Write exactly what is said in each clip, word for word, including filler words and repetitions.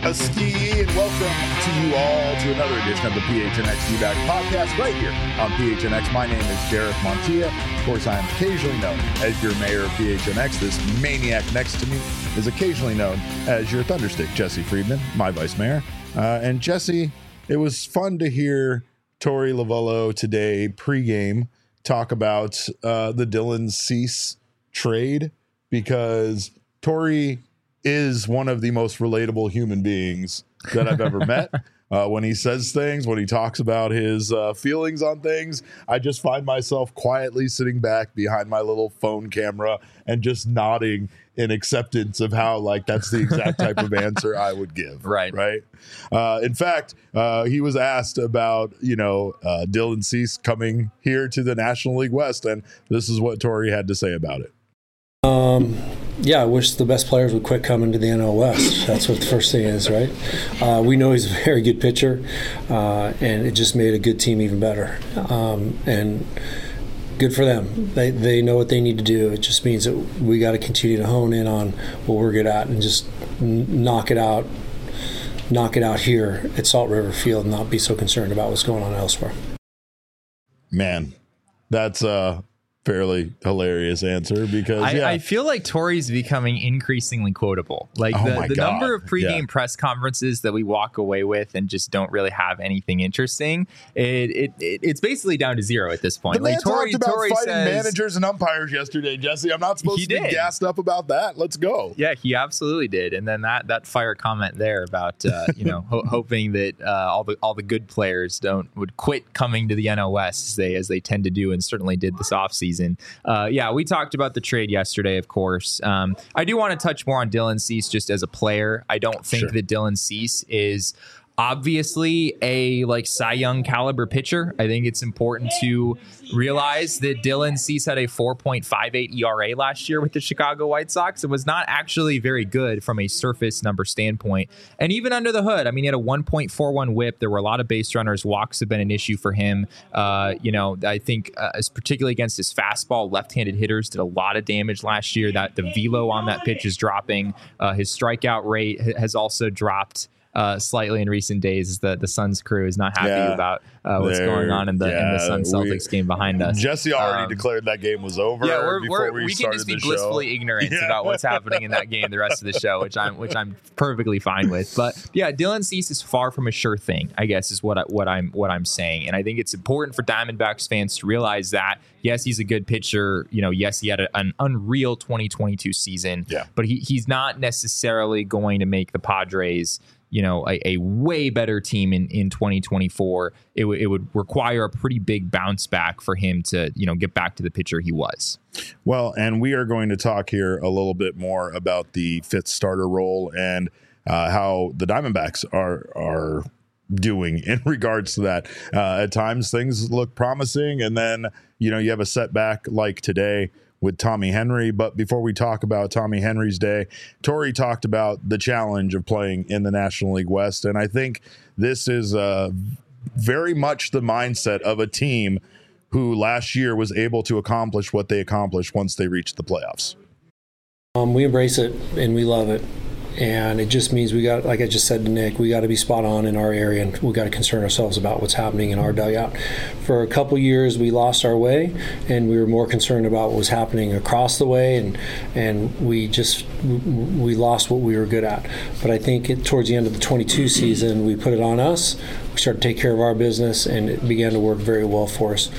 Ski, and welcome to you all to another edition of the P H N X D-Back podcast right here on P H N X. My name is Derek Montilla. Of course, I am occasionally known as your mayor of P H N X. This maniac next to me is occasionally known as your Thunderstick, Jesse Friedman, my vice mayor. Uh, and Jesse, it was fun to hear Torey Lovullo today pregame talk about uh, the Dylan Cease trade, because Torey is one of the most relatable human beings that I've ever met. Uh, when he says things, when he talks about his uh, feelings on things, I just find myself quietly sitting back behind my little phone camera and just nodding in acceptance of how, like, that's the exact type of answer I would give. Right. Right. Uh, in fact, uh, he was asked about, you know, uh, Dylan Cease coming here to the National League West, and this is what Torey had to say about it. Um, yeah, I wish the best players would quit coming to the N L West. That's what the first thing is, right? Uh, we know he's a very good pitcher, uh, and it just made a good team even better. Um, and good for them. They they know what they need to do. It just means that we got to continue to hone in on what we're good at and just n- knock it out, knock it out here at Salt River Field, and not be so concerned about what's going on elsewhere. Man, that's uh. fairly hilarious answer, because I, yeah. I feel like Torey's becoming increasingly quotable. Like oh the, the God. number of pregame yeah. press conferences that we walk away with and just don't really have anything interesting. It, it, it it's basically down to zero at this point. The man like Torey, talked about Torey fighting says, managers and umpires yesterday, Jesse. I'm not supposed He to be did. gassed up about that. Let's go. Yeah, he absolutely did. And then that that fire comment there about uh, you know ho- hoping that uh, all the all the good players don't would quit coming to the N L West as they as they tend to do, and certainly did this offseason. Uh, yeah, we talked about the trade yesterday, of course. Um, I do want to touch more on Dylan Cease just as a player. I don't think Sure. that Dylan Cease is obviously a like Cy Young caliber pitcher. I think it's important to realize that Dylan Cease had a four point five eight E R A last year with the Chicago White Sox. It was not actually very good from a surface number standpoint. And even under the hood, I mean, he had a one point four one whip. There were a lot of base runners. Walks have been an issue for him. Uh, you know, I think uh, particularly against his fastball, left-handed hitters did a lot of damage last year. That the velo on that pitch is dropping. Uh, his strikeout rate has also dropped Uh, slightly in recent days. The the Suns crew is not happy Yeah, about uh, what's going on in the yeah, in the Suns Celtics we, game behind us. Jesse already um, declared that game was over. Yeah, we're, before we're, we, we can just be the blissfully show. ignorant Yeah. about what's happening in that game the rest of the show, which I'm which I'm perfectly fine with. But yeah, Dylan Cease is far from a sure thing, I guess, is what I, what I'm what I'm saying, and I think it's important for Diamondbacks fans to realize that yes, he's a good pitcher. You know, yes, he had a, an unreal twenty twenty-two season, Yeah. but he he's not necessarily going to make the Padres, you know, a, a way better team in, in twenty twenty-four. It, w- it would require a pretty big bounce back for him to, you know, get back to the pitcher he was. Well, and we are going to talk here a little bit more about the fifth starter role and uh, how the Diamondbacks are are doing in regards to that. Uh, at times, things look promising, and then, you know, you have a setback like today with Tommy Henry. But before we talk about Tommy Henry's day, Torey talked about the challenge of playing in the National League West. And I think this is uh, very much the mindset of a team who last year was able to accomplish what they accomplished once they reached the playoffs. Um, we embrace it and we love it. And it just means we got, like I just said to Nick, we got to be spot on in our area, and we got to concern ourselves about what's happening in our dugout. For a couple years, we lost our way, and we were more concerned about what was happening across the way, and and we just we lost what we were good at. But I think it, towards the end of the twenty-two season, we put it on us. We started to take care of our business, and it began to work very well for us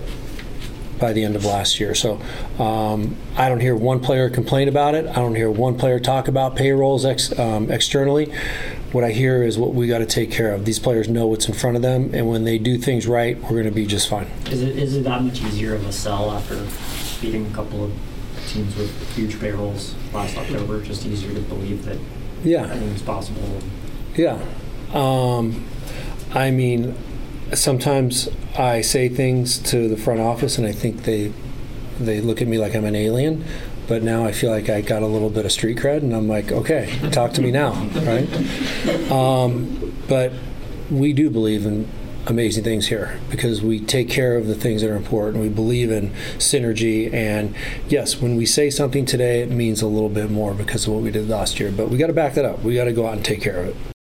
by the end of last year. So um, I don't hear one player complain about it. I don't hear one player talk about payrolls ex, um, externally. What I hear is what we got to take care of. These players know what's in front of them, and when they do things right, we're going to be just fine. Is it is it that much easier of a sell after beating a couple of teams with huge payrolls last October? Just easier to believe that yeah. anything's possible? Yeah. Um, I mean, sometimes I say things to the front office and I think they they look at me like I'm an alien, but now I feel like I got a little bit of street cred, and I'm like, okay, talk to me now, right? Um, but we do believe in amazing things here because we take care of the things that are important. We believe in synergy, and yes, when we say something today, it means a little bit more because of what we did last year, but we got to back that up. We got to go out and take care of it.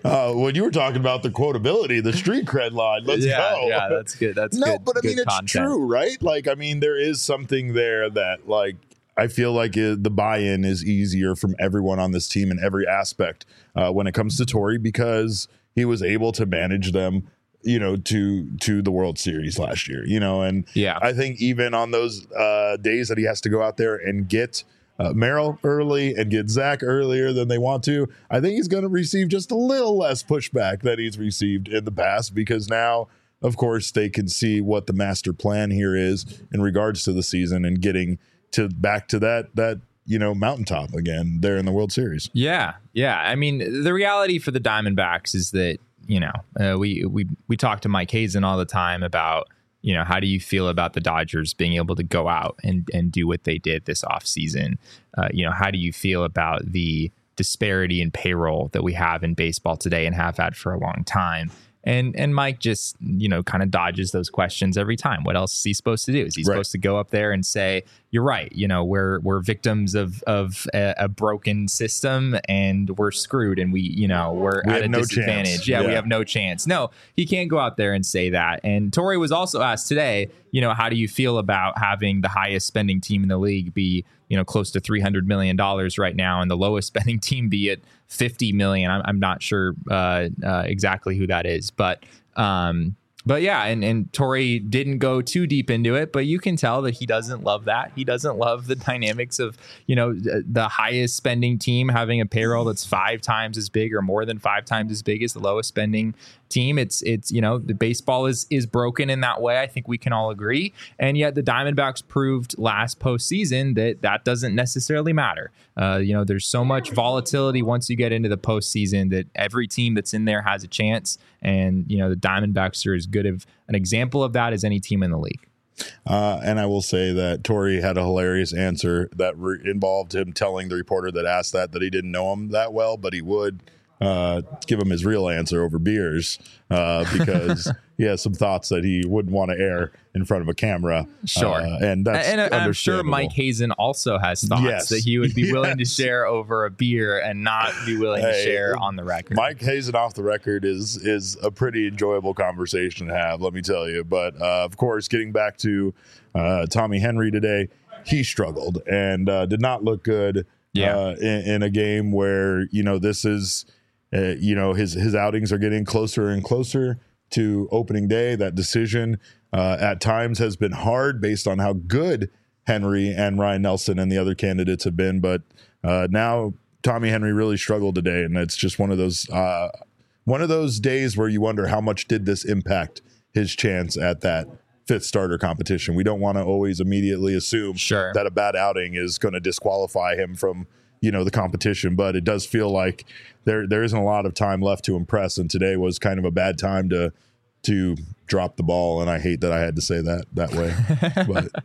Uh, when you were talking about the quotability, the street cred line, let's yeah, go. Yeah, that's good. That's no, good, but I good mean, it's content. true, right? Like, I mean, there is something there that, like, I feel like it, the buy-in is easier from everyone on this team in every aspect uh, when it comes to Torey, because he was able to manage them, you know, to to the World Series last year, you know, and yeah. I think even on those uh, days that he has to go out there and get Uh, Merrill early and get Zach earlier than they want to, I think he's going to receive just a little less pushback than he's received in the past, because now, of course, they can see what the master plan here is in regards to the season and getting to back to that that you know mountaintop again there in the World Series. Yeah, yeah. I mean, the reality for the Diamondbacks is that you know uh, we we we talk to Mike Hazen all the time about. You know, how do you feel about the Dodgers being able to go out and, and do what they did this offseason? Uh, you know, how do you feel about the disparity in payroll that we have in baseball today and have had for a long time? And and Mike just, you know, kind of dodges those questions every time. What else is he supposed to do? Is he right. supposed to go up there and say, you're right, you know, we're we're victims of of a, a broken system and we're screwed and we, you know, we're we at a no disadvantage. Yeah, yeah, yeah, we have no chance. No, he can't go out there and say that. And Torey was also asked today, you know, how do you feel about having the highest spending team in the league be, you know, close to three hundred million dollars right now and the lowest spending team be at fifty million dollars. I'm, I'm not sure uh, uh, exactly who that is, but um, but yeah, and, and Torey didn't go too deep into it, but you can tell that he doesn't love that. He doesn't love the dynamics of, you know, the highest spending team having a payroll that's five times as big or more than five times as big as the lowest spending team. It's, it's, you know, the baseball is, is broken in that way. I think we can all agree. And yet the Diamondbacks proved last postseason that that doesn't necessarily matter. Uh, you know, there's so much volatility once you get into the postseason that every team that's in there has a chance. And, you know, the Diamondbacks are as good of an example of that as any team in the league. Uh, and I will say that Torey had a hilarious answer that re- involved him telling the reporter that asked that, that he didn't know him that well, but he would uh, give him his real answer over beers uh, because he has some thoughts that he wouldn't want to air in front of a camera. Sure. Uh, and that's and, and I'm sure understandable. Mike Hazen also has thoughts Yes. that he would be willing Yes. to share over a beer and not be willing to Hey, share on the record. Mike Hazen off the record is is a pretty enjoyable conversation to have, let me tell you. But uh, of course, getting back to uh, Tommy Henry today, he struggled and uh, did not look good Yeah. uh, in, in a game where, you know, this is, uh, you know, his, his outings are getting closer and closer to opening day. That decision uh, at times has been hard based on how good Henry and Ryan Nelson and the other candidates have been. But uh, now Tommy Henry really struggled today, and it's just one of those uh, one of those days where you wonder how much did this impact his chance at that fifth starter competition. We don't want to always immediately assume Sure. that a bad outing is going to disqualify him from, you know, the competition, but it does feel like there there isn't a lot of time left to impress, and today was kind of a bad time to to drop the ball, and I hate that I had to say that that way. But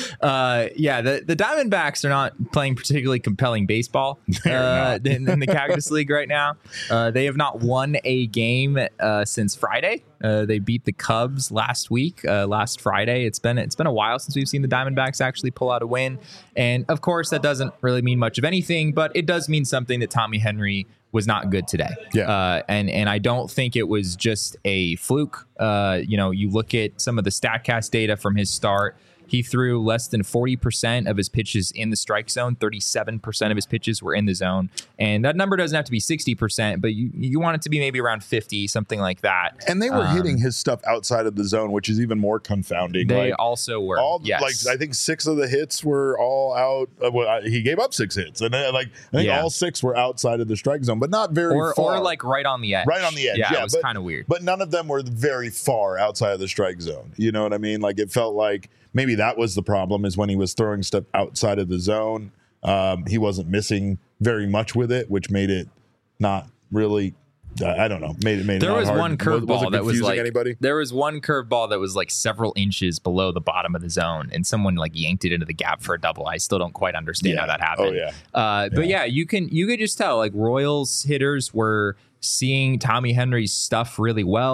Uh, yeah, the, the Diamondbacks are not playing particularly compelling baseball uh, in, in the Cactus League right now. Uh, they have not won a game uh, since Friday. Uh, they beat the Cubs last week, uh, last Friday. It's been it's been a while since we've seen the Diamondbacks actually pull out a win. And of course, that doesn't really mean much of anything, but it does mean something that Tommy Henry was not good today. Yeah. Uh, and, and I don't think it was just a fluke. Uh, you know, you look at some of the StatCast data from his start. He threw less than forty percent of his pitches in the strike zone. thirty-seven percent of his pitches were in the zone. And that number doesn't have to be sixty percent, but you, you want it to be maybe around fifty, something like that. and they were Um, hitting his stuff outside of the zone, which is even more confounding. They like, also were. all yes. like I think six of the hits were all out. Uh, well, I- he gave up six hits, and then, like I think Yeah. all six were outside of the strike zone, but not very or, far. or like right on the edge. Right on the edge. Yeah, Yeah, it was but- kind of weird. But none of them were very far outside of the strike zone. You know what I mean? Like it felt like maybe that was the problem, is when he was throwing stuff outside of the zone, um, he wasn't missing very much with it, which made it not really. Uh, I don't know. Made it made it There not was hard. one Was- curveball was it that was confusing like anybody. there was one curveball that was like several inches below the bottom of the zone, and someone like yanked it into the gap for a double. I still don't quite understand Yeah. how that happened. Oh, yeah. Uh, but yeah, you can you could just tell like Royals hitters were seeing Tommy Henry's stuff really well.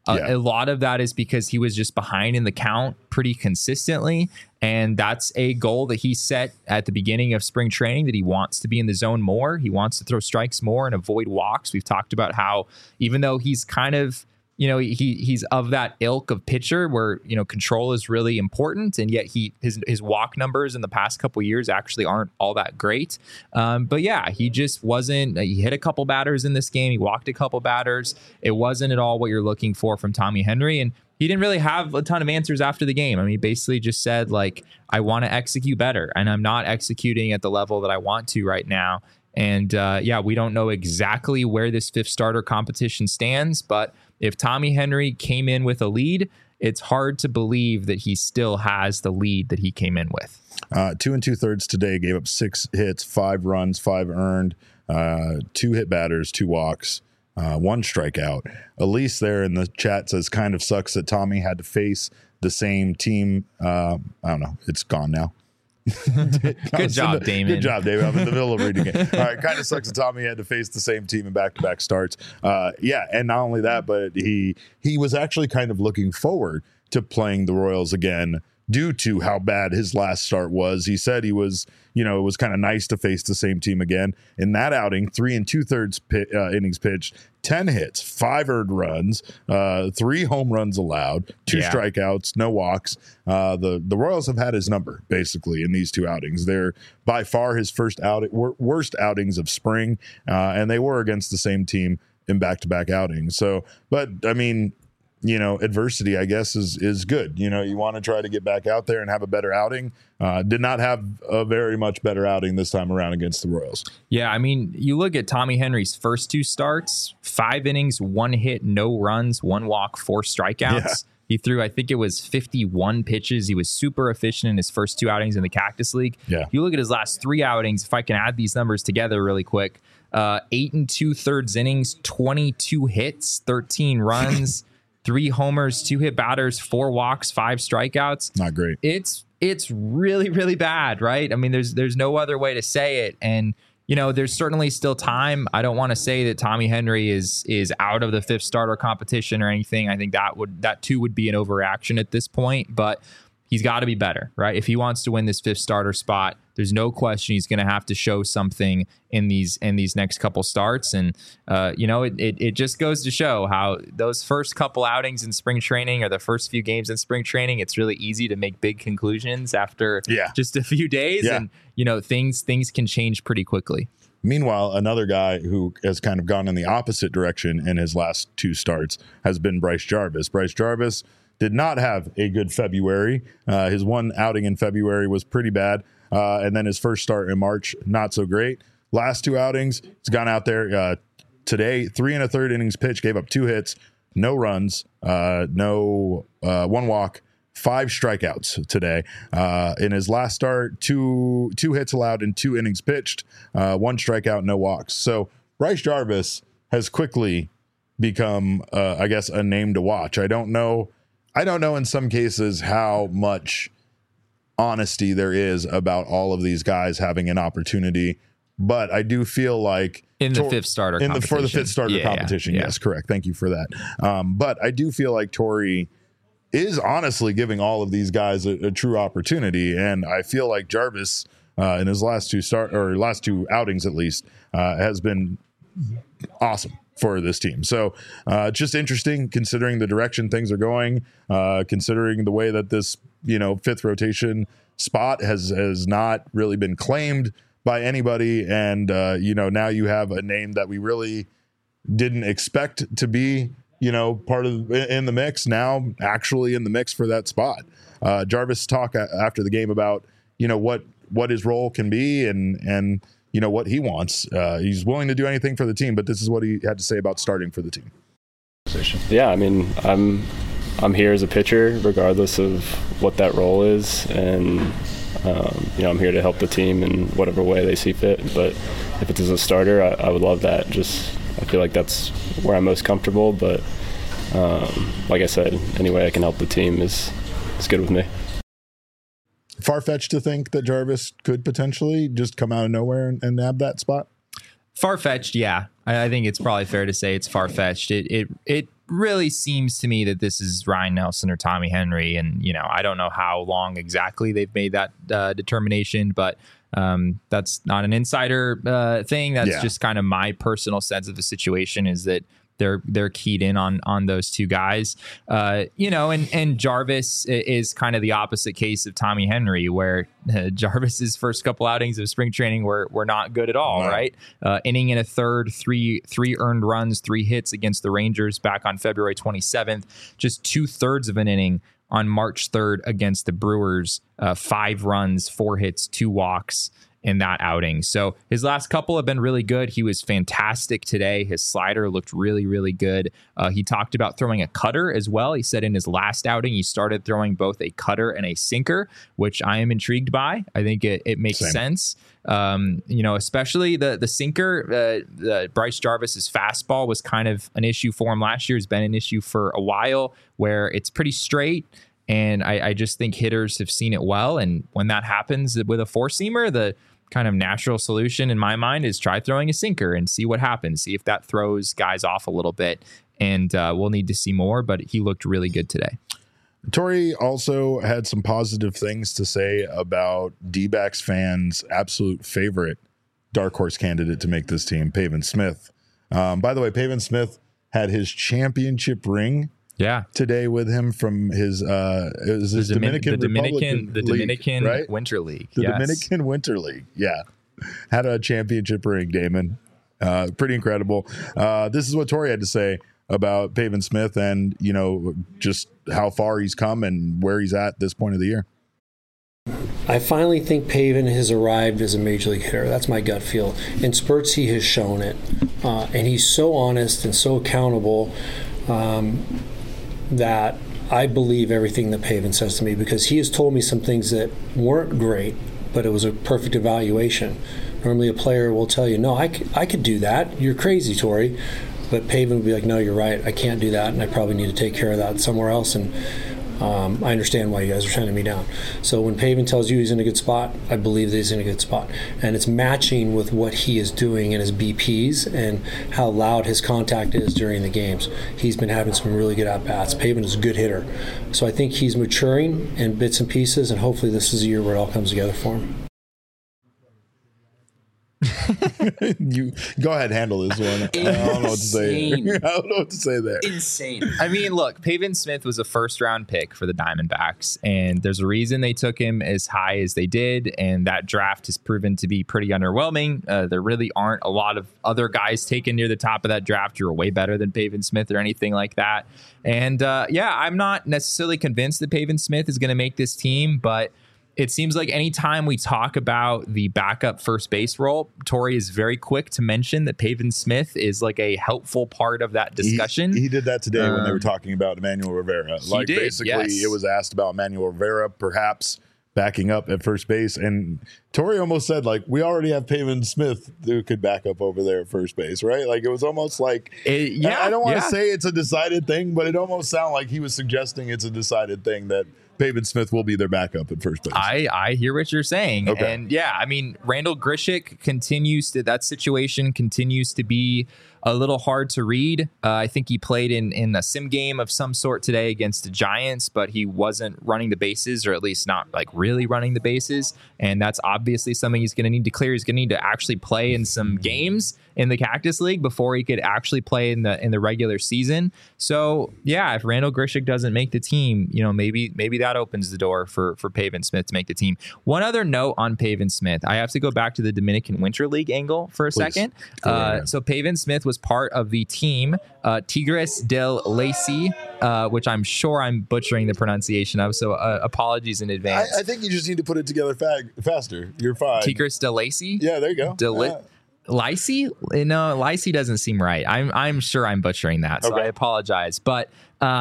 Uh, Yeah. A lot of that is because he was just behind in the count pretty consistently. And that's a goal that he set at the beginning of spring training, that he wants to be in the zone more. He wants to throw strikes more and avoid walks. We've talked about how even though he's kind of, you know, he he's of that ilk of pitcher where, you know, control is really important, and yet he his his walk numbers in the past couple of years actually aren't all that great. Um, but yeah, he just wasn't. He hit a couple batters in this game. He walked a couple batters. It wasn't at all what you're looking for from Tommy Henry, and he didn't really have a ton of answers after the game. I mean, he basically just said, like, I want to execute better, and I'm not executing at the level that I want to right now. And uh, yeah, we don't know exactly where this fifth starter competition stands, but if Tommy Henry came in with a lead, it's hard to believe that he still has the lead that he came in with. Uh, two and two thirds today, gave up six hits, five runs, five earned, uh, two hit batters, two walks, uh, one strikeout. Elise there in the chat says, kind of sucks that Tommy had to face the same team. Uh, I don't know. It's gone now. Good job, the, Damon. Good job, David. I'm in the middle of reading it. All right, kind of sucks that Tommy had to face the same team in back-to-back starts. Uh, yeah, and not only that, but he he was actually kind of looking forward to playing the Royals again due to how bad his last start was. He said he was, you know, it was kind of nice to face the same team again. In that outing, three and two-thirds pit, uh, innings pitched, ten hits, five earned runs, uh, three home runs allowed, two Yeah. strikeouts, no walks. Uh, the, the Royals have had his number, basically, in these two outings. They're by far his first out, wor- worst outings of spring, uh, and they were against the same team in back-to-back outings. So, but, I mean, you know, adversity, I guess, is is good. You know, you want to try to get back out there and have a better outing. Uh, did not have a very much better outing this time around against the Royals. Yeah, I mean, you look at Tommy Henry's first two starts, five innings, one hit, no runs, one walk, four strikeouts. Yeah. He threw, I think it was fifty-one pitches. He was super efficient in his first two outings in the Cactus League. Yeah. You look at his last three outings, if I can add these numbers together really quick, uh, eight and two thirds innings, twenty-two hits, thirteen runs, three homers, two hit batters, four walks, five strikeouts. Not great. It's it's really, really bad, right? I mean, there's there's no other way to say it. And, you know, there's certainly still time. I don't want to say that Tommy Henry is is out of the fifth starter competition or anything. I think that would that too would be an overreaction at this point, but he's got to be better, right? If he wants to win this fifth starter spot, there's no question he's going to have to show something in these in these next couple starts. And, uh, you know, it, it it just goes to show how those first couple outings in spring training or the first few games in spring training, it's really easy to make big conclusions after Yeah. just a few days. Yeah. And, you know, things things can change pretty quickly. Meanwhile, another guy who has kind of gone in the opposite direction in his last two starts has been Bryce Jarvis. Bryce Jarvis did not have a good February. Uh, his one outing in February was pretty bad. Uh, and then his first start in March, not so great. Last two outings, he's gone out there uh, today, three and a third innings pitched, gave up two hits, no runs, uh, no uh, one walk, five strikeouts today. Uh, in his last start, two two hits allowed in two innings pitched, uh, one strikeout, no walks. So Bryce Jarvis has quickly become, uh, I guess, a name to watch. I don't know. I don't know in some cases how much honesty there is about all of these guys having an opportunity, but I do feel like In the Tor- fifth starter in the for the competition. fifth starter Yeah, yeah, competition. yeah. Yes, correct. Thank you for that. Um, but I do feel like Torrey is honestly giving all of these guys a, a true opportunity, and I feel like Jarvis uh, in his last two start or last two outings at least uh, has been awesome for this team. So uh, just interesting considering the direction things are going, uh, considering the way that this, you know, fifth rotation spot has, has not really been claimed by anybody. And, uh, you know, now you have a name that we really didn't expect to be, you know, part of in the mix, now actually in the mix for that spot. Uh, Jarvis talked after the game about, you know, what, what his role can be and, and, you know, what he wants. Uh, he's willing to do anything for the team, but this is what he had to say about starting for the team. Yeah, I mean, I'm I'm here as a pitcher, regardless of what that role is, and um, you know, I'm here to help the team in whatever way they see fit. But if it's as a starter, I, I would love that. Just I feel like that's where I'm most comfortable. But um, like I said, any way I can help the team is is good with me. Far-fetched to think that Jarvis could potentially just come out of nowhere and, and nab that spot? Far-fetched, yeah. I, I think it's probably fair to say it's far-fetched. It it it really seems to me that this is Ryan Nelson or Tommy Henry. And, you know, I don't know how long exactly they've made that uh, determination, but um, that's not an insider uh, thing. That's Yeah. just kind of my personal sense of the situation, is that they're they're keyed in on on those two guys. Uh, you know, and and Jarvis is kind of the opposite case of Tommy Henry, where uh, Jarvis's first couple outings of spring training were were not good at all, No. right? Uh, inning in a third, three three earned runs, three hits against the Rangers back on February twenty-seventh, just two thirds of an inning on March third against the Brewers, uh, five runs, four hits, two walks in that outing. So his last couple have been really good. He was fantastic today. His slider looked really, really good. Uh, he talked about throwing a cutter as well. He said in his last outing, he started throwing both a cutter and a sinker, which I am intrigued by. I think it, it makes Same. sense. Um, you know, especially the the sinker, uh, the Bryce Jarvis's fastball was kind of an issue for him last year. It's been an issue for a while, where it's pretty straight. And I, I just think hitters have seen it well. And when that happens with a four-seamer, the kind of natural solution in my mind is try throwing a sinker and see what happens. See if that throws guys off a little bit. And uh, we'll need to see more, but he looked really good today. Torey also had some positive things to say about D-backs fans' absolute favorite dark horse candidate to make this team, Pavin Smith. Um, by the way, Pavin Smith had his championship ring Yeah. today with him from his uh it was his The Domin- Dominican the Dominican, Republican the League, Dominican right? Winter League. The yes. Dominican Winter League. Yeah. Had a championship ring, Damon. Uh pretty incredible. Uh this is what Torey had to say about Pavin Smith and, you know, just how far he's come and where he's at this point of the year. I finally think Pavin has arrived as a major league hitter. That's my gut feel. In spurts, he has shown it. Uh, and he's so honest and so accountable um, that I believe everything that Pavin says to me, because he has told me some things that weren't great, but it was a perfect evaluation. Normally a player will tell you, no, I, c- I could do that. You're crazy, Torey. But Pavin would be like, no, you're right. I can't do that, and I probably need to take care of that somewhere else. And Um, I understand why you guys are turning me down. So when Pavin tells you he's in a good spot, I believe that he's in a good spot. And it's matching with what he is doing in his B Ps and how loud his contact is during the games. He's been having some really good at-bats. Pavin is a good hitter. So I think he's maturing in bits and pieces, and hopefully this is a year where it all comes together for him. You go ahead, handle this one. I don't know what to say. I don't know what to say there. Insane. I mean, look, Pavin Smith was a first round pick for the Diamondbacks, and there's a reason they took him as high as they did. And that draft has proven to be pretty underwhelming. Uh, there really aren't a lot of other guys taken near the top of that draft who are way better than Pavin Smith or anything like that. And uh, yeah, I'm not necessarily convinced that Pavin Smith is going to make this team, but it seems like anytime we talk about the backup first base role, Torey is very quick to mention that Pavin Smith is like a helpful part of that discussion. He, he did that today um, when they were Um, talking about Emmanuel Rivera. he Like did, basically, yes. it was asked about Emmanuel Rivera perhaps backing up at first base, and Torey almost said, like, we already have Pavin Smith who could back up over there at first base, right? Like it was almost like, It- yeah, I, I don't want to yeah. say it's a decided thing, but it almost sounded like he was suggesting it's a decided thing that Pavin Smith will be their backup at first base. I, I hear what you're saying. Okay. And yeah, I mean, Randall Grishik continues to, that situation continues to be a little hard to read. Uh, I think he played in, in a sim game of some sort today against the Giants, but he wasn't running the bases, or at least not like really running the bases. And that's obviously something he's going to need to clear. He's going to need to actually play in some games in the Cactus League before he could actually play in the in the regular season. So yeah, if Randall Grishik doesn't make the team, you know, maybe maybe that opens the door for for Pavin Smith to make the team. One other note on Pavin Smith, I have to go back to the Dominican Winter League angle for a Please. second. Go right Uh, ahead. so Pavin Smith was part of the team uh, Tigres del Lacy, uh, which I'm sure I'm butchering the pronunciation of. So uh, apologies in advance. I, I think you just need to put it together fa- faster. You're fine. Tigres del Lacy. Yeah, there you go. Deli- Yeah. Lycee? No, Lycee doesn't seem right. I'm I'm sure I'm butchering that, so Okay. I apologize. But um,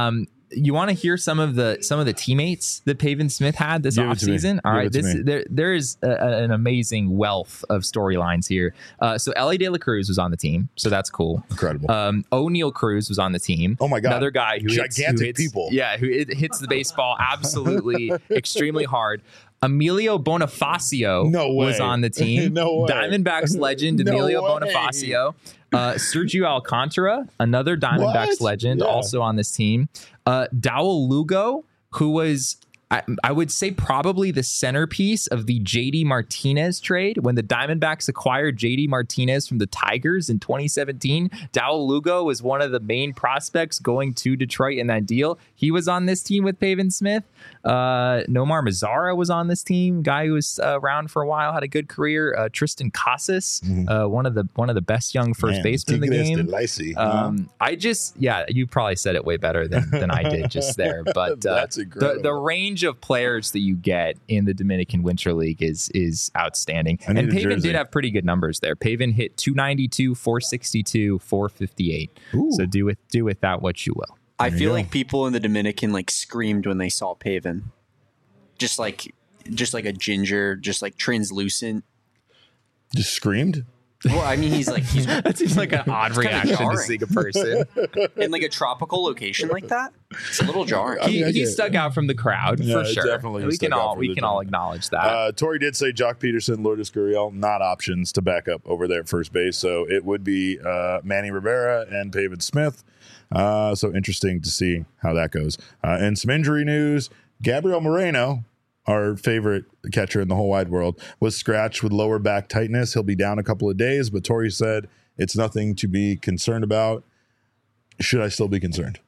you want to hear some of the some of the teammates that Pavin Smith had this Give it to me. offseason? All Give right, it to this me. there there is a, a- an amazing wealth of storylines here. Uh, so Ellie De La Cruz was on the team, so that's cool. Incredible. Um, O'Neal Cruz was on the team. Oh my God. Another guy who hits, who Gigantic hits- people. Yeah, who it hits the baseball absolutely extremely hard. Emilio Bonifacio No way. was on the team. No way. Diamondbacks legend No Emilio way. Bonifacio. Uh, Sergio Alcantara, another Diamondbacks What? legend, Yeah. also on this team. Uh, Dowell Lugo, who was, I, I would say, probably the centerpiece of the J D Martinez trade when the Diamondbacks acquired J D Martinez from the Tigers in twenty seventeen. Dowell Lugo was one of the main prospects going to Detroit in that deal. He was on this team with Pavin Smith. Uh, Nomar Mazara was on this team, guy who was uh, around for a while, had a good career. Uh, Tristan Casas, uh, one of the one of the best young first Man, basemen in the Tigres de game. Lacy, huh? Um, I just, yeah, you probably said it way better than, than I did just there. But uh, That's the incredible. the range of players that you get in the Dominican Winter League is is outstanding. I need And a Pavin jersey. did have pretty good numbers there. Pavin hit two ninety-two, four sixty-two, four fifty-eight. Ooh. So do with do with that what you will. I There you feel go. like people in the Dominican like screamed when they saw Pavin. Just like just like a ginger, just like translucent. Just screamed. Well, I mean he's like he's That seems like an odd kinda reaction to jarring. see a person. in like a tropical location like that. It's a little jarring. I mean, He, I he get it. stuck out from the crowd Yeah, for sure. definitely he we stuck can out all from we the can all crowd. acknowledge that. Uh, Torrey did say Jock Peterson, Lourdes Gurriel, not options to back up over there at first base. So it would be uh, Manny Rivera and Pavin Smith. Uh, so interesting to see how that goes. Uh, and some injury news. Gabriel Moreno, our favorite catcher in the whole wide world, was scratched with lower back tightness. He'll be down a couple of days, but Torrey said it's nothing to be concerned about. Should I still be concerned?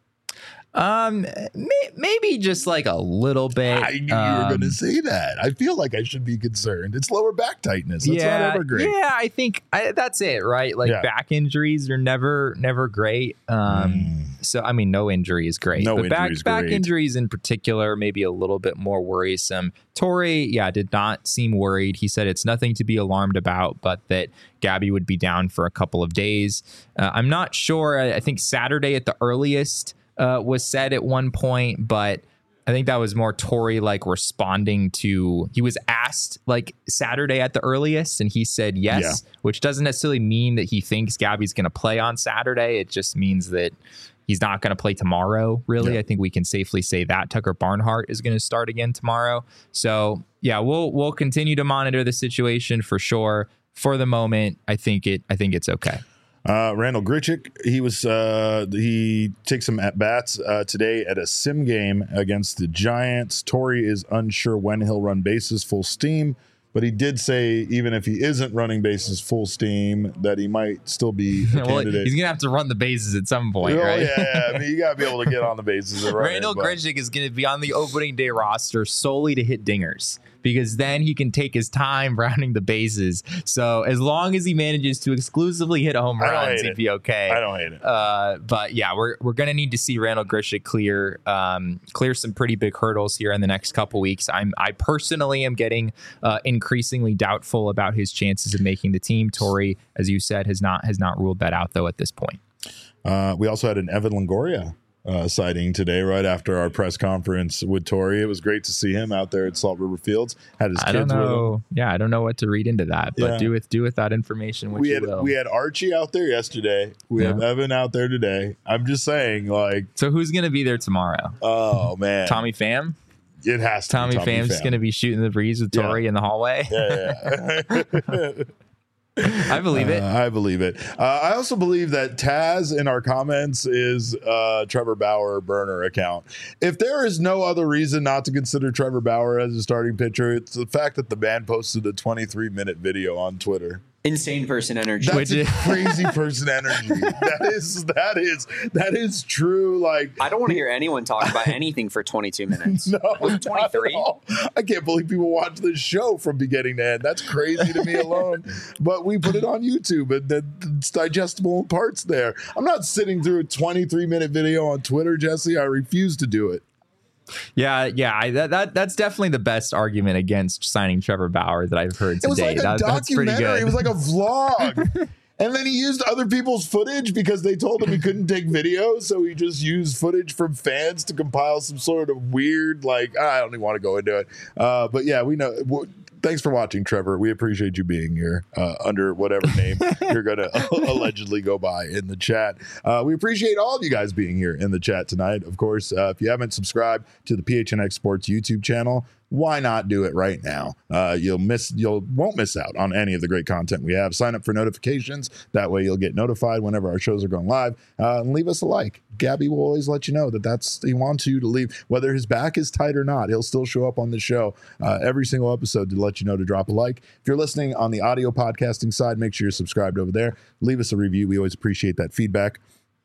Um, may, maybe just like a little bit. I knew you were going to Um, say that. I feel like I should be concerned. It's lower back tightness. That's yeah, not ever great. Yeah, I think I, that's it, right? Like Yeah. back injuries are never, never great. Um, so I mean, no injury is great, Mm. No but back injury is back great. injuries in particular, maybe a little bit more worrisome. Torrey, yeah, did not seem worried. He said it's nothing to be alarmed about, but that Gabby would be down for a couple of days. Uh, I'm not sure. I, I think Saturday at the earliest uh, was said at one point, but I think that was more Torrey like responding to, he was asked like Saturday at the earliest and he said yes, Yeah. which doesn't necessarily mean that he thinks Gabby's going to play on Saturday. It just means that he's not going to play tomorrow. Really. Yeah. I think we can safely say that Tucker Barnhart is going to start again tomorrow. So yeah, we'll, we'll continue to monitor the situation for sure. For the moment, I think it, I think it's okay. Uh, Randall Grichuk, he was uh, he takes some at bats uh, today at a sim game against the Giants. Torrey is unsure when he'll run bases full steam, but he did say even if he isn't running bases full steam, that he might still be a Well, candidate. he's going to have to run the bases at some point, Oh, right? yeah, yeah. I mean, you got to be able to get on the bases. And run it, Randall but- Grichuk is going to be on the opening day roster solely to hit dingers because then he can take his time rounding the bases. So as long as he manages to exclusively hit home I don't runs, hate he'd it. be okay. I don't hate it. Uh, but yeah, we're we're gonna need to see Randall Grichuk clear um, clear some pretty big hurdles here in the next couple weeks. I'm I personally am getting uh, increasingly doubtful about his chances of making the team. Torrey, as you said, has not has not ruled that out though at this point. Uh, we also had an Evan Longoria uh, sighting today, right after our press conference with Torrey. It was great to see him out there at Salt River Fields. Had his I kids don't with him. know. Yeah, I don't know what to read into that, but Yeah. do with do with that information what We you had will. we had Archie out there yesterday. We have Yeah. Evan out there today. I'm just saying, like, So who's gonna be there tomorrow? oh man, Tommy Pham. it has to. Tommy, be Tommy Pham's Pham. gonna be shooting the breeze with Yeah. Torrey in the hallway. Yeah, yeah. I believe it. Uh, I believe it. Uh, I also believe that Taz in our comments is uh, Trevor Bauer burner account. If there is no other reason not to consider Trevor Bauer as a starting pitcher, it's the fact that the man posted a twenty-three minute video on Twitter. Insane person energy. That's Which a is- crazy person energy. That is that is that is true. Like I don't want to hear anyone talk about anything for twenty-two minutes. no, Was not it twenty-three? at all. I can't believe people watch this show from beginning to end. That's crazy to me alone. But we put it on YouTube and then it's digestible in parts there. I'm not sitting through a twenty-three minute video on Twitter, Jesse. I refuse to do it. Yeah, yeah, I, that, that that's definitely the best argument against signing Trevor Bauer that I've heard It was today. like a That- that's pretty documentary. good. It was like a vlog. And then he used other people's footage because they told him he couldn't take video. So he just used footage from fans to compile some sort of weird, like, I don't even want to go into it. Uh, but yeah, we know. W- thanks for watching, Trevor. We appreciate you being here uh, under whatever name you're going to allegedly go by in the chat. Uh, we appreciate all of you guys being here in the chat tonight. Of course, uh, if you haven't subscribed to the P H N X Sports YouTube channel, why not do it right now? Uh, you'll miss, you'll won't miss out on any of the great content we have. Sign up for notifications. That way you'll get notified whenever our shows are going live. Uh, and leave us a like. Gabby will always let you know that that's, he wants you to leave. Whether his back is tight or not, he'll still show up on the show uh, every single episode to let you know to drop a like. If you're listening on the audio podcasting side, make sure you're subscribed over there. Leave us a review. We always appreciate that feedback.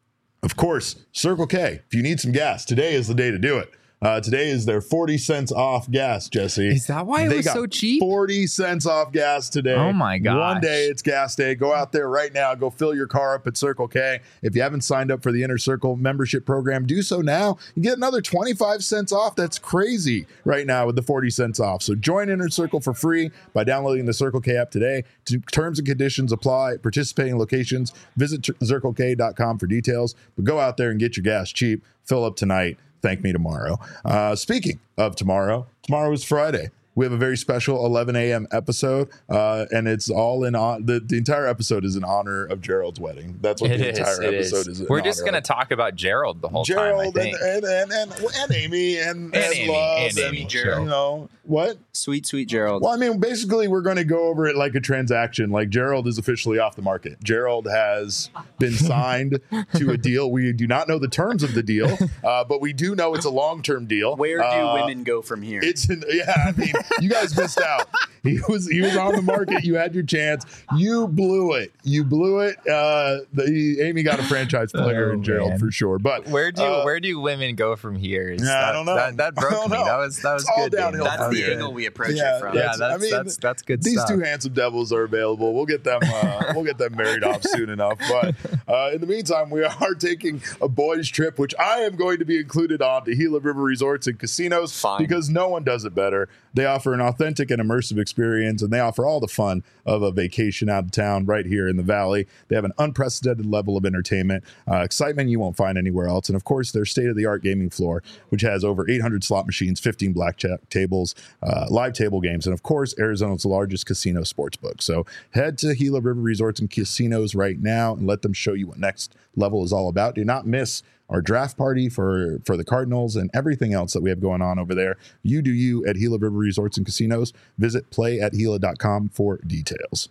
Of course, Circle K. If you need some gas, today is the day to do it. Uh, today is their forty cents off gas, Jesse. Is that why it they was got so cheap? forty cents off gas today. Oh, my gosh. One day it's gas day. Go out there right now. Go fill your car up at Circle K. If you haven't signed up for the Inner Circle membership program, do so now. You get another twenty-five cents off. That's crazy right now with the forty cents off. So join Inner Circle for free by downloading the Circle K app today. Terms and conditions apply. Participating locations. Visit circle k dot com for details. But go out there and get your gas cheap. Fill up tonight. Thank me tomorrow. Uh, speaking of tomorrow, tomorrow is Friday. We have a very special eleven a.m. episode, uh, and it's all in on the, the entire episode is in honor of Gerald's wedding. That's what It the is, entire it episode is. is. in We're just honor going to of. talk about Gerald the whole Gerald time, I think. and, and, and, and, and Amy and, And Amy, Love and Amy, sure. you know what? Sweet, sweet Gerald. Well, I mean, basically, we're going to go over it like a transaction. Like Gerald is officially off the market. Gerald has been signed to a deal. We do not know the terms of the deal, uh, but we do know it's a long-term deal. Where do uh, women go from here? It's an, yeah. I mean, you guys missed out. He was he was on the market. You had your chance. You blew it. You blew it. Uh, the Amy got a franchise player Oh, in Gerald man. for sure. But Where do uh, where do women go from here? Is Yeah, that, I don't know. That, that I broke don't me. know. That was that was It's all good. Daniel. downhill That That's was the good. angle we approach Yeah, it from. Yeah, That's- that's I mean, that's that's good these stuff. two handsome devils are available. We'll get them. Uh, we'll get them married off soon enough. But uh, in the meantime, we are taking a boys' trip, which I am going to be included on to Gila River Resorts and Casinos Fine. because no one does it better. They offer an authentic and immersive experience, and they offer all the fun of a vacation out of town right here in the Valley. They have an unprecedented level of entertainment, uh, excitement you won't find anywhere else, and of course, their state-of-the-art gaming floor, which has over eight hundred slot machines, fifteen blackjack tables, uh, live table games, and of course, Arizona's largest casino sportsbook. So head to Gila River Resorts and Casinos right now and let them show you what next level is all about. Do not miss our draft party for, for the Cardinals and everything else that we have going on over there. You do you at Gila River Resorts and Casinos. Visit play at gila dot com for details.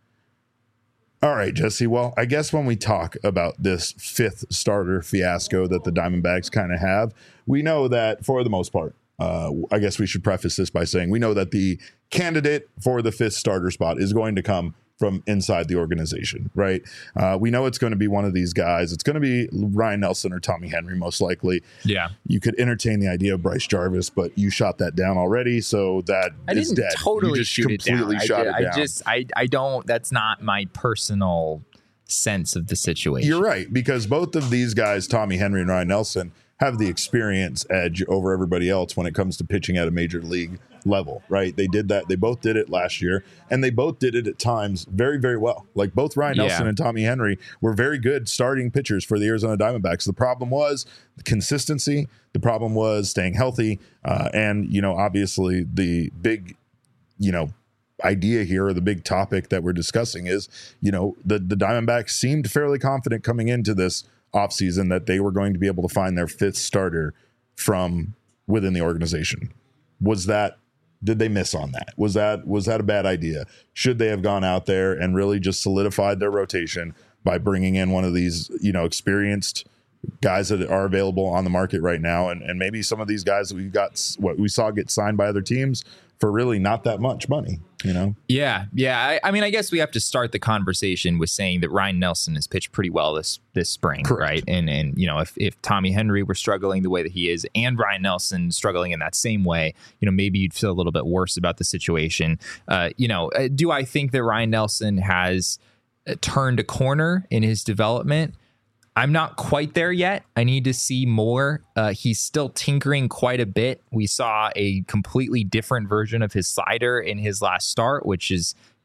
All right, Jesse. Well, I guess when we talk about this fifth starter fiasco that the Diamondbacks kind of have, we know that for the most part, uh, I guess we should preface this by saying we know that the candidate for the fifth starter spot is going to come from inside the organization, right? Uh, we know it's going to be one of these guys. It's going to be Ryan Nelson or Tommy Henry, most likely. Yeah. You could entertain the idea of Bryce Jarvis, but you shot that down already, so that I is didn't dead. totally you just shoot it down. completely I, shot did- it I down. just I I don't. That's not my personal sense of the situation. You're right, because both of these guys, Tommy Henry and Ryan Nelson, have the experience edge over everybody else when it comes to pitching at a major league level, right? They did that. They both did it last year, and they both did it at times very, very well. Like both Ryan Yeah. Nelson and Tommy Henry were very good starting pitchers for the Arizona Diamondbacks. The problem was the consistency. The problem was staying healthy. Uh, and, you know, obviously the big, you know, idea here or the big topic that we're discussing is, you know, the, the Diamondbacks seemed fairly confident coming into this offseason that they were going to be able to find their fifth starter from within the organization. Was that, did they miss on that? Was that, was that a bad idea? Should they have gone out there and really just solidified their rotation by bringing in one of these, you know, experienced guys that are available on the market right now? And, and maybe some of these guys that we got, what we saw get signed by other teams for really not that much money, you know? Yeah, yeah. I, I mean, I guess we have to start the conversation with saying that Ryan Nelson has pitched pretty well this this spring, Correct. right? And and you know, if if Tommy Henry were struggling the way that he is, and Ryan Nelson struggling in that same way, you know, maybe you'd feel a little bit worse about the situation. Uh, you know, uh, do I think that Ryan Nelson has uh, turned a corner in his development? I'm not quite there yet. I need to see more. Uh, he's still tinkering quite a bit. We saw a completely different version of his slider in his last start, which is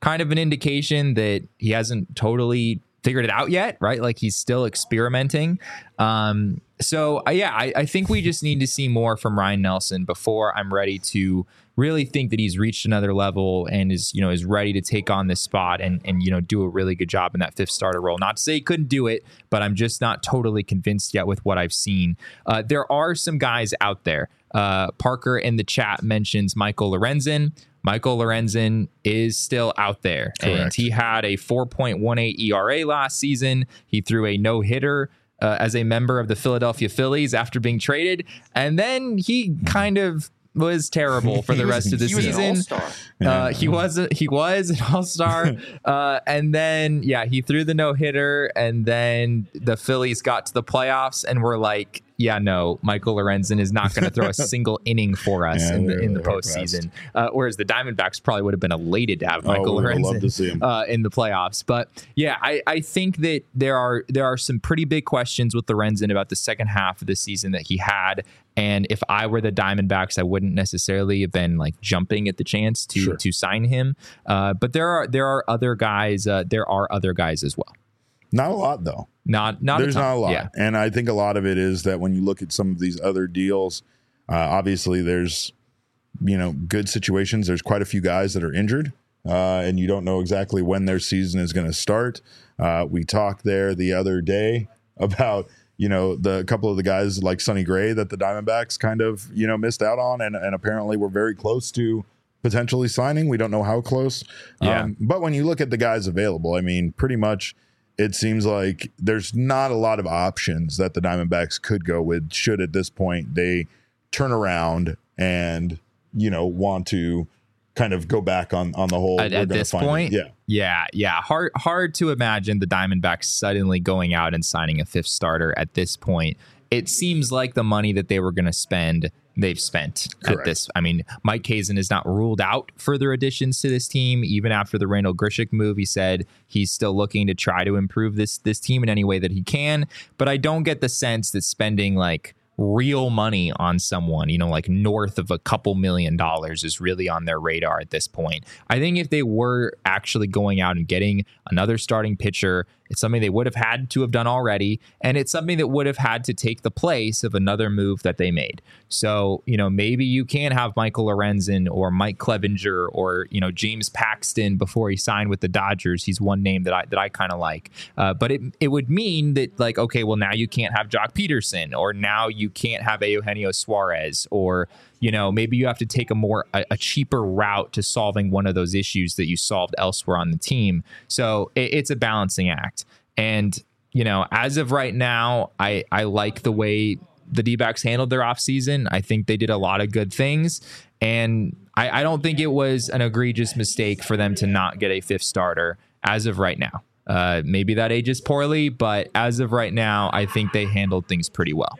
kind of an indication that he hasn't totally figured it out yet, right? Like he's still experimenting. Um, so uh, yeah, I, I think we just need to see more from Ryan Nelson before I'm ready to really think that he's reached another level and is, you know, is ready to take on this spot and, and, you know, do a really good job in that fifth starter role. Not to say he couldn't do it, but I'm just not totally convinced yet with what I've seen. Uh, there are some guys out there. Uh, Parker in the chat mentions Michael Lorenzen. Michael Lorenzen is still out there. Correct. And he had a four point one eight E R A last season. He threw a no-hitter uh, as a member of the Philadelphia Phillies after being traded. And then he kind of was terrible for the rest of the he was season. An all-star. Uh, he was a, he was an all-star, uh, and then yeah, he threw the no-hitter, and then the Phillies got to the playoffs and were like, yeah, no, Michael Lorenzen is not going to throw a single inning for us yeah, in the in the postseason. Uh, whereas the Diamondbacks probably would have been elated to have Michael oh, Lorenzen to see him. Uh, in the playoffs. But yeah, I, I think that there are there are some pretty big questions with Lorenzen about the second half of the season that he had. And if I were the Diamondbacks, I wouldn't necessarily have been like jumping at the chance to sure. to sign him. Uh, but there are there are other guys. Uh, there are other guys as well. Not a lot, though. Not not There's a not a lot. Yeah. And I think a lot of it is that when you look at some of these other deals, uh, obviously there's, you know, good situations. There's quite a few guys that are injured, uh, and you don't know exactly when their season is going to start. Uh, we talked there the other day about, you know, the couple of the guys like Sonny Gray that the Diamondbacks kind of, you know, missed out on and, and apparently were very close to potentially signing. We don't know how close. Yeah. Um, but when you look at the guys available, I mean, pretty much it seems like there's not a lot of options that the Diamondbacks could go with should at this point they turn around and, you know, want to kind of go back on, on the whole. At, at this point, it. yeah. Yeah, yeah. Hard hard to imagine the Diamondbacks suddenly going out and signing a fifth starter at this point. It seems like the money that they were going to spend, they've spent Correct. At this. I mean, Mike Hazen is not ruled out further additions to this team. Even after the Randall Grichuk move, he said he's still looking to try to improve this this team in any way that he can. But I don't get the sense that spending like real money on someone, you know, like north of a couple million dollars is really on their radar at this point. I think if they were actually going out and getting another starting pitcher, it's something they would have had to have done already. And it's something that would have had to take the place of another move that they made. So, you know, maybe you can have Michael Lorenzen or Mike Clevinger or, you know, James Paxton before he signed with the Dodgers. He's one name that I that I kind of like. Uh, but it it would mean that like, okay, well, now you can't have Jock Peterson, or now you can't have Eugenio Suarez, or, you know, maybe you have to take a more a, a cheaper route to solving one of those issues that you solved elsewhere on the team. So it, it's a balancing act. And, you know, as of right now, I, I like the way the D-backs handled their offseason. I think they did a lot of good things. And I, I don't think it was an egregious mistake for them to not get a fifth starter as of right now. Uh, maybe that ages poorly, but as of right now, I think they handled things pretty well.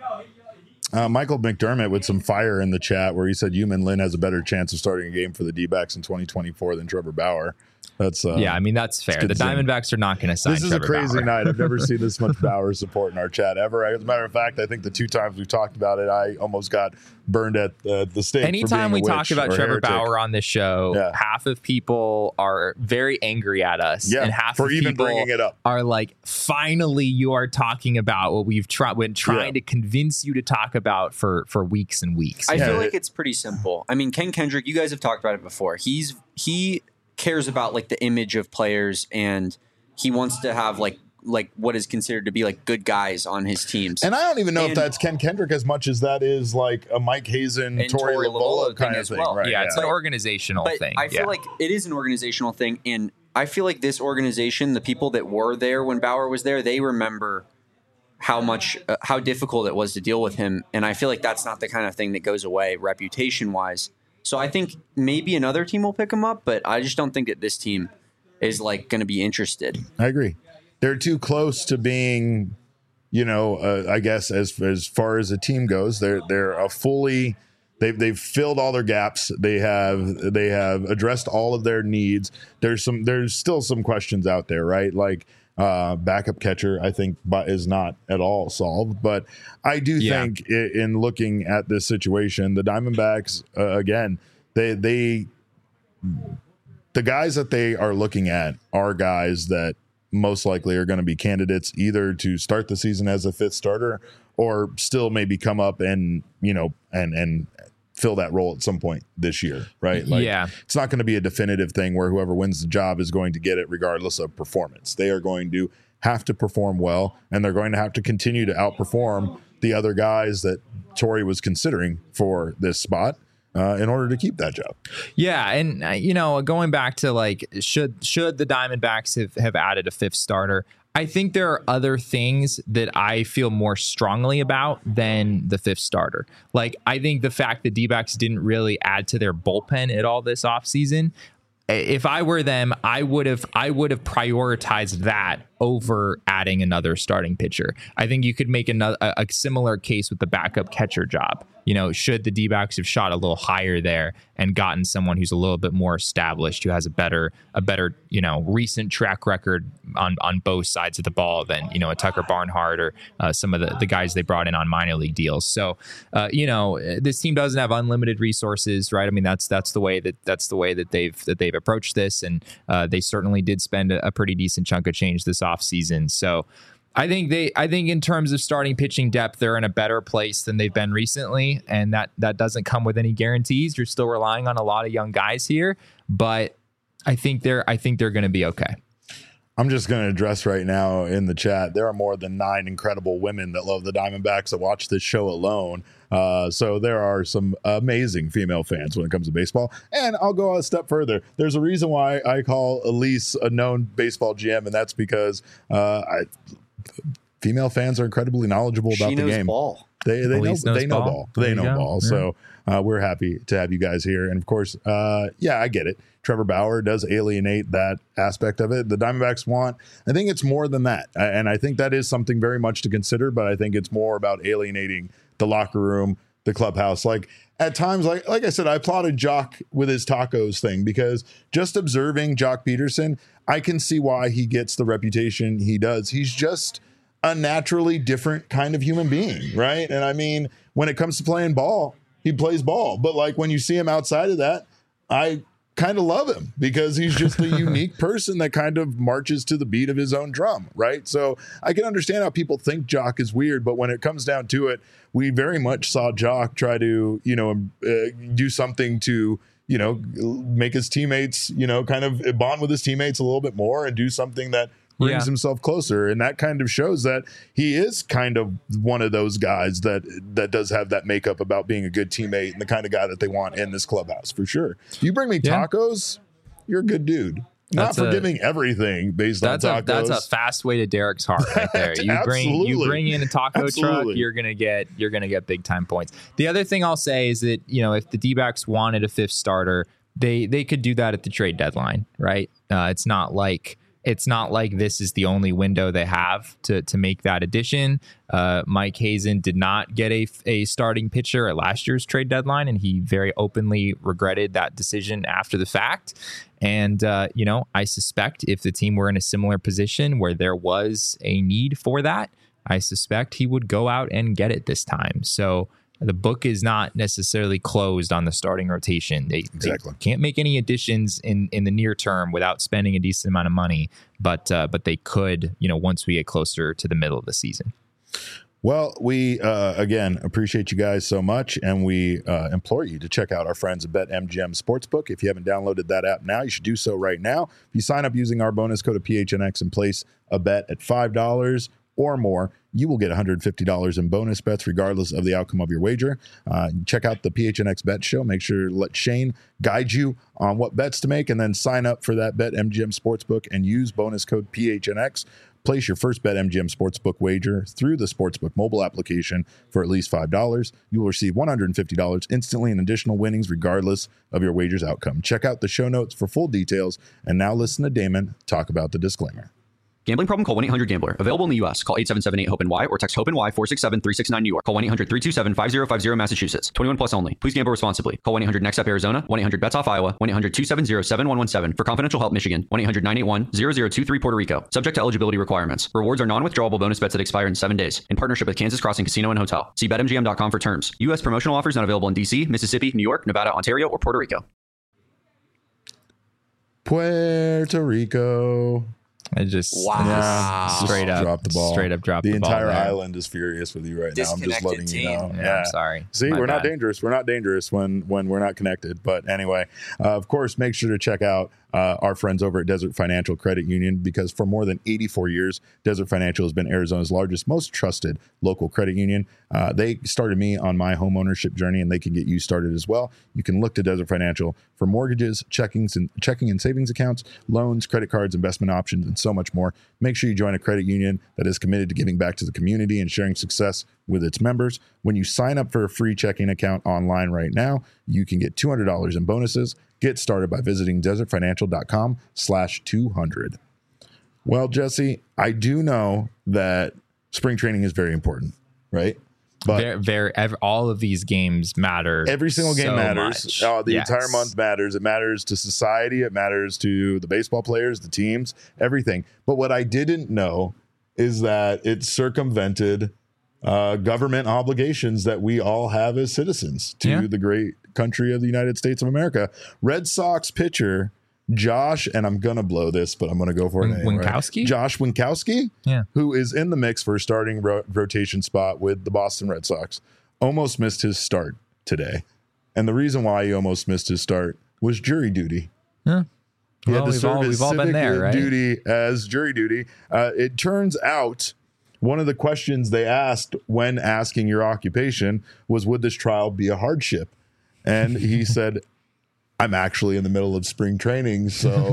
Uh, Michael McDermott with some fire in the chat where he said Yumin Lin has a better chance of starting a game for the D-backs in twenty twenty-four than Trevor Bauer. That's uh, yeah, I mean, that's fair. The Diamondbacks are not going to sign This is Trevor a crazy Bauer. night. I've never seen this much Bauer support in our chat ever. As a matter of fact, I think the two times we've talked about it, I almost got burned at uh, the stake. Anytime for we being a talk witch about or Trevor heretic. Bauer on this show, Yeah. half of people are very angry at us, Yeah, and half for of even people bringing it up. are like, finally, you are talking about what we've tried, been trying Yeah. to convince you to talk about for for weeks and weeks. I Yeah. feel like it's pretty simple. I mean, Ken Kendrick, you guys have talked about it before. He's he cares about like the image of players, and he wants to have like like what is considered to be like good guys on his teams. And I don't even know if And- that's Ken Kendrick as much as that is like a Mike Hazen, And Torey Torey Lovola Lovola kind thing of as thing. well. Right, yeah, it's yeah. an organizational But thing. I feel yeah. like it is an organizational thing, and I feel like this organization, the people that were there when Bauer was there, they remember how much, uh, how difficult it was to deal with him, and I feel like that's not the kind of thing that goes away reputation-wise. So I think maybe another team will pick him up, but I just don't think that this team is like going to be interested. I agree. They're too close to being, you know, uh, I guess as as far as a team goes, they're they're a fully they've they've filled all their gaps. They have they have addressed all of their needs. There's some there's still some questions out there, right? Like uh, backup catcher, I think, but is not at all solved. But I do Yeah. think i- in looking at this situation, the Diamondbacks uh, again, they they. the guys that they are looking at are guys that most likely are going to be candidates either to start the season as a fifth starter or still maybe come up and, you know, and, and fill that role at some point this year, right? Like, yeah. It's not going to be a definitive thing where whoever wins the job is going to get it regardless of performance. They are going to have to perform well, and they're going to have to continue to outperform the other guys that Torrey was considering for this spot. Uh, in order to keep that job. Yeah. And, uh, you know, going back to like, should should the Diamondbacks have, have added a fifth starter? I think there are other things that I feel more strongly about than the fifth starter. Like, I think the fact that D-backs didn't really add to their bullpen at all this offseason, if I were them, I would have I would have prioritized that over adding another starting pitcher. I think you could make another a, a similar case with the backup catcher job. You know, should the D-backs have shot a little higher there and gotten someone who's a little bit more established, who has a better, a better, you know, recent track record on, on both sides of the ball than, you know, a Tucker Barnhart or uh, some of the, the guys they brought in on minor league deals. So, uh, you know, this team doesn't have unlimited resources, right? I mean, that's that's the way that that's the way that they've that they've approached this, and uh, they certainly did spend a, a pretty decent chunk of change this offseason. So. I think they. I think in terms of starting pitching depth, they're in a better place than they've been recently, and that that doesn't come with any guarantees. You're still relying on a lot of young guys here, but I think they're. I think they're going to be okay. I'm just going to address right now in the chat. There are more than nine incredible women that love the Diamondbacks that watch this show alone. Uh, so there are some amazing female fans when it comes to baseball. And I'll go a step further. There's a reason why I call Elise a known baseball G M, and that's because uh, I. female fans are incredibly knowledgeable about she the knows game. Ball. They they Elise know knows they know ball. ball. They know go. ball. Yeah. So uh, we're happy to have you guys here. And of course, uh, yeah, I get it. Trevor Bauer does alienate that aspect of it. The Diamondbacks want. I think it's more than that, and I think that is something very much to consider. But I think it's more about alienating the locker room, the clubhouse. Like at times, like like I said, I applauded Jock with his tacos thing because just observing Jock Peterson, I can see why he gets the reputation he does. He's just a naturally different kind of human being, right? And I mean, when it comes to playing ball, he plays ball. But like when you see him outside of that, I kind of love him because he's just a unique person that kind of marches to the beat of his own drum, right? So I can understand how people think Jock is weird, but when it comes down to it, we very much saw Jock try to, you know, uh, do something to, you know, make his teammates, you know, kind of bond with his teammates a little bit more and do something that brings yeah. himself closer. And that kind of shows that he is kind of one of those guys that that does have that makeup about being a good teammate and the kind of guy that they want in this clubhouse for sure. If you bring me yeah. tacos, you're a good dude. Not That's forgiving a, everything based that's on a, tacos. That's a fast way to Derek's heart right there. You bring you bring in a taco Absolutely. truck, you're gonna get you're gonna get big time points. The other thing I'll say is that, you know, if the D-backs wanted a fifth starter, they they could do that at the trade deadline, right? Uh, it's not like It's not like this is the only window they have to to make that addition. Uh, Mike Hazen did not get a, a starting pitcher at last year's trade deadline, and he very openly regretted that decision after the fact. And, uh, you know, I suspect if the team were in a similar position where there was a need for that, I suspect he would go out and get it this time. So the book is not necessarily closed on the starting rotation. They, exactly. they can't make any additions in, in the near term without spending a decent amount of money, but uh, but they could, you know, once we get closer to the middle of the season. Well, we, uh, again, appreciate you guys so much, and we uh, implore you to check out our friends at BetMGM Sportsbook. If you haven't downloaded that app now, you should do so right now. If you sign up using our bonus code of P H N X and place a bet at five dollars or more, you will get one hundred fifty dollars in bonus bets regardless of the outcome of your wager. Uh, check out the P H N X Bet Show. Make sure to let Shane guide you on what bets to make, and then sign up for that BetMGM Sportsbook and use bonus code P H N X. Place your first BetMGM Sportsbook wager through the Sportsbook mobile application for at least five dollars. You will receive one hundred fifty dollars instantly in additional winnings regardless of your wager's outcome. Check out the show notes for full details. And now listen to Damon talk about the disclaimer. Gambling problem? Call one eight hundred gambler. Available in the U S. Call eight seven seven eight hope N Y or text HOPE-NY four six seven three six nine New York. Call one eight hundred three two seven five zero five zero Massachusetts. twenty-one plus only. Please gamble responsibly. Call one eight hundred next up Arizona. one eight hundred bets off Iowa. one eight hundred two seven zero seven one one seven for confidential help Michigan. one eight hundred nine eight one zero zero two three Puerto Rico. Subject to eligibility requirements. Rewards are non-withdrawable bonus bets that expire in seven days. In partnership with Kansas Crossing Casino and Hotel. See bet M G M dot com for terms. U S promotional offers not available in D C, Mississippi, New York, Nevada, Ontario, or Puerto Rico. Puerto Rico. I just, Wow. I just straight Just up, dropped the ball. straight up dropped The the, ball entire there. island is furious with you right now. I'm just Disconnected letting you know. team. Yeah, I'm sorry. See, My we're not bad. dangerous. We're not dangerous when when we're not connected. But anyway, uh, of course, make sure to check out uh, our friends over at Desert Financial Credit Union, because for more than eighty-four years, Desert Financial has been Arizona's largest, most trusted local credit union. Uh, they started me on my home ownership journey, and they can get you started as well. You can look to Desert Financial for mortgages, checkings, and checking and savings accounts, loans, credit cards, investment options, and so much more. Make sure you join a credit union that is committed to giving back to the community and sharing success with its members. When you sign up for a free checking account online right now, you can get two hundred dollars in bonuses. Get started by visiting desertfinancial.com slash 200. Well, Jesse, I do know that spring training is very important, right? But Very, very, ev- all of these games matter. every single game so matters. much. Oh, the Yes. entire month matters. It matters to society. It matters to the baseball players, the teams, everything. But what I didn't know is that it circumvented uh, government obligations that we all have as citizens to Yeah. the great country of the United States of America. Red Sox pitcher Josh, and I'm going to blow this, but I'm going to go for it Win- anyway. Winkowski? Josh Winkowski, Yeah. who is in the mix for a starting ro- rotation spot with the Boston Red Sox, almost missed his start today. And the reason why he almost missed his start was jury duty. Yeah. He Well, had to we've serve all- his we've all been civic there, right? duty as jury duty. Uh, it turns out one of the questions they asked when asking your occupation was, would this trial be a hardship? And he said, I'm actually in the middle of spring training,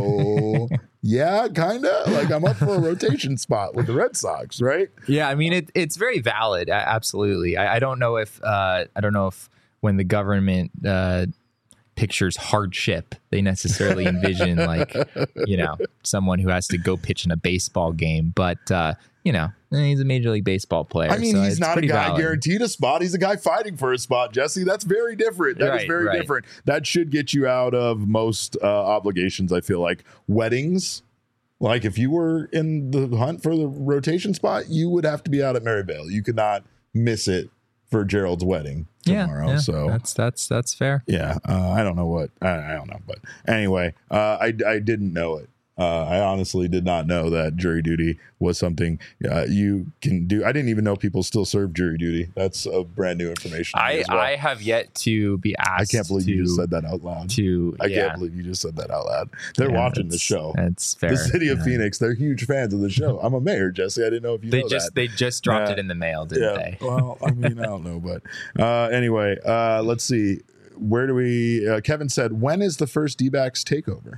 so yeah, kind of. Like, I'm up for a rotation spot with the Red Sox, right? Yeah, I mean it, it's very valid. a- Absolutely. I, I don't know if uh, I don't know if when the government uh, pictures hardship, they necessarily envision like you know someone who has to go pitch in a baseball game. But uh, you know he's a Major League Baseball player. I mean, so he's it's not a pretty guy valid. guaranteed a spot. He's a guy fighting for a spot, Jesse. That's very different. That is Right, very right. different. That should get you out of most uh, obligations, I feel like. Weddings, like if you were in the hunt for the rotation spot, you would have to be out at Maryvale. You could not miss it for Gerald's wedding Yeah, tomorrow. yeah, so that's that's that's fair. yeah, uh, I don't know what I, I don't know, but anyway, uh, I I didn't know it. Uh, I honestly did not know that jury duty was something uh, you can do. I didn't even know people still serve jury duty. That's a brand new information to me I as well. I have yet to be I asked. can't believe to, you just said that out loud. To I yeah, can't believe you just said that out loud. They're yeah, watching the that's- show. That's fair. The city of Yeah. Phoenix, they're huge fans of the show. I'm a mayor, Jesse. I didn't know if you They know just that. they just dropped Yeah. it in the mail, didn't yeah. they? Well, I mean, I don't know, but uh, anyway, uh, let's see. Where do we? Uh, Kevin said, "When is the first D-backs takeover?"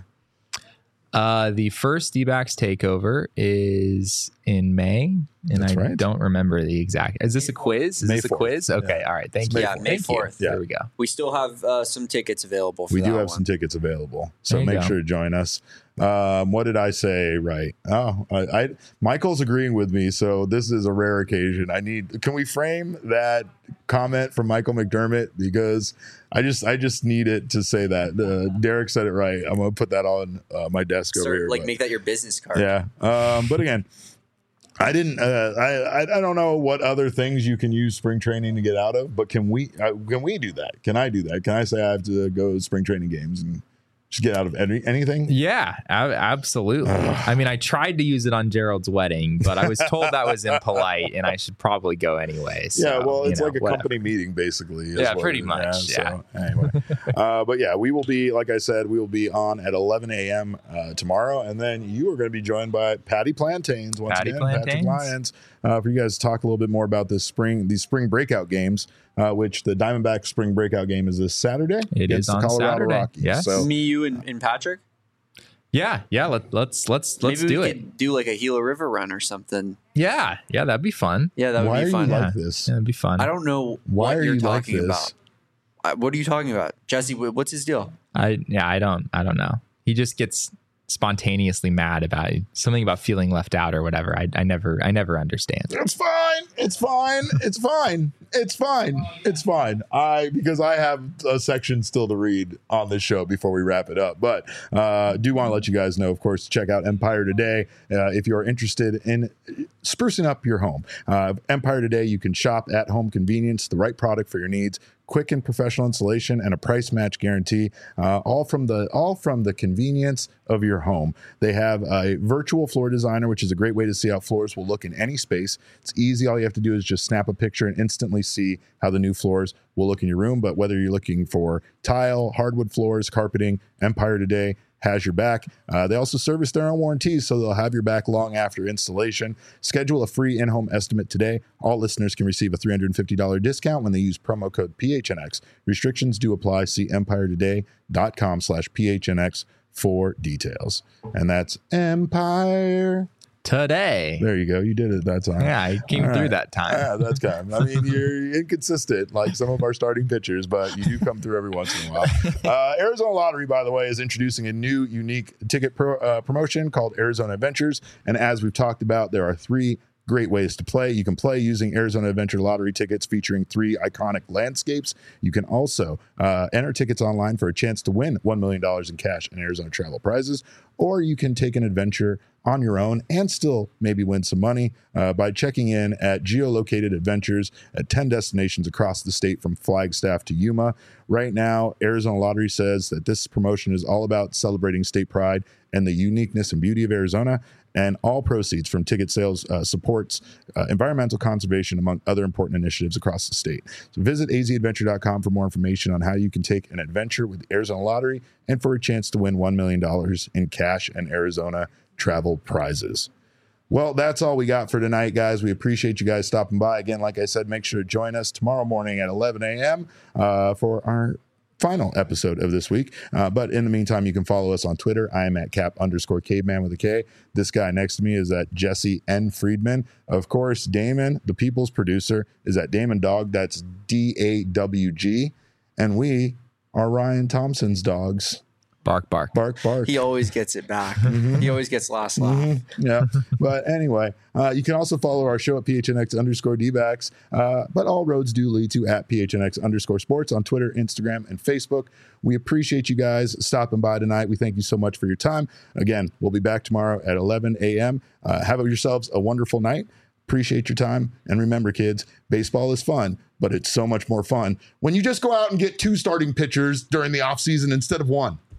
Uh, the first D-backs takeover is in May, and That's I right. don't remember the exact. Is this a quiz? Is May this a fourth. quiz? Okay, Yeah. all right. Thank It's you. May Yeah, fourth. May Thank you. fourth. Yeah. There we go. We still have uh, some tickets available for We that do have one. some tickets available, so There you make go. sure to join us. Um, what did I say? Right? Oh, I, I Michael's agreeing with me, so this is a rare occasion. I need. Can we frame that comment from Michael McDermott, because I just I just need it to say that uh, Derek said it right. I'm gonna put that on uh, my desk over Start, here. like but- make that your business card. yeah. Um, but again, I didn't. Uh, I, I I don't know what other things you can use spring training to get out of, but can we uh, can we do that? Can I do that? Can I say I have to go to spring training games and just get out of any, anything? Yeah, a- absolutely. I mean, I tried to use it on Gerald's wedding, but I was told that was impolite, and I should probably go anyway. So, Yeah, well, you it's know, like a whatever. company meeting, basically. is Yeah, what pretty it is. much, So, anyway, uh, but yeah, we will be, like I said, we will be on at eleven a.m. Uh, tomorrow, and then you are going to be joined by Patty Plantains once Patty again, Patrick Plantains. Lyons, uh, for you guys to talk a little bit more about this spring, these spring breakout games. Uh, which the Diamondback spring breakout game is this Saturday. It against is on the Colorado Saturday, Rockies. yes. So Me, you, and, and Patrick. Yeah, yeah. Let, let's let's let's Maybe do we it. could do like a Gila River run or something. Yeah, yeah. That'd be fun. Yeah, that would why be are fun. you Yeah. like this? Yeah, that'd be fun. I don't know Why what are you're you like talking this? about. Uh, what are you talking about, Jesse? wh- What's his deal? I yeah. I don't. I don't know. He just gets spontaneously mad about something about feeling left out or whatever. I I never I never understand. It's fine. It's fine. It's fine. It's fine. It's fine. I because I have a section still to read on this show before we wrap it up. But uh, do want to let you guys know, of course, to check out Empire Today uh, if you are interested in sprucing up your home. Uh, Empire Today, you can shop at home convenience, the right product for your needs. quick and professional installation, and a price match guarantee, uh, all from the all from the convenience of your home. They have a virtual floor designer, which is a great way to see how floors will look in any space. It's easy. All you have to do is just snap a picture and instantly see how the new floors will look in your room. But whether you're looking for tile, hardwood floors, carpeting, Empire Today has your back. Uh, they also service their own warranties, so they'll have your back long after installation. Schedule a free in-home estimate today. All listeners can receive a three hundred fifty dollars discount when they use promo code P H N X. Restrictions do apply. See empire today dot com slash P H N X for details. And that's Empire Today. There you go. You did it that time. Yeah, I came All through right. that time. Yeah, that's kind of, I mean, you're inconsistent like some of our starting pitchers, but you do come through every once in a while. Uh, Arizona Lottery, by the way, is introducing a new unique ticket pro, uh, promotion called Arizona Adventures. And as we've talked about, there are three great ways to play. You can play using Arizona Adventure Lottery tickets featuring three iconic landscapes. You can also uh, enter tickets online for a chance to win one million dollars in cash and Arizona travel prizes, or you can take an adventure on your own and still maybe win some money uh, by checking in at geolocated adventures at ten destinations across the state from Flagstaff to Yuma. Right now, Arizona Lottery says that this promotion is all about celebrating state pride and the uniqueness and beauty of Arizona, and all proceeds from ticket sales uh, supports uh, environmental conservation, among other important initiatives across the state. So visit A Z adventure dot com for more information on how you can take an adventure with the Arizona Lottery and for a chance to win one million dollars in cash and Arizona travel prizes. Well, that's all we got for tonight, guys. We appreciate you guys stopping by. Again, like I said, make sure to join us tomorrow morning at eleven a.m. Uh, for our final episode of this week. Uh, but in the meantime, you can follow us on Twitter. I am at cap underscore caveman with a K. This guy next to me is at Jesse N. Friedman. Of course, Damon, the people's producer, is at Damon Dog. That's D A W G. And we are Ryan Thompson's dogs. Bark, bark. Bark, bark. He always gets it back. Mm-hmm. He always gets last laugh. Mm-hmm. Yeah. But anyway, uh, you can also follow our show at P H N X underscore D-backs. Uh, but all roads do lead to at P H N X underscore sports on Twitter, Instagram, and Facebook. We appreciate you guys stopping by tonight. We thank you so much for your time. Again, we'll be back tomorrow at eleven a.m. Uh, have yourselves a wonderful night. Appreciate your time. And remember, kids, baseball is fun, but it's so much more fun when you just go out and get two starting pitchers during the offseason instead of one.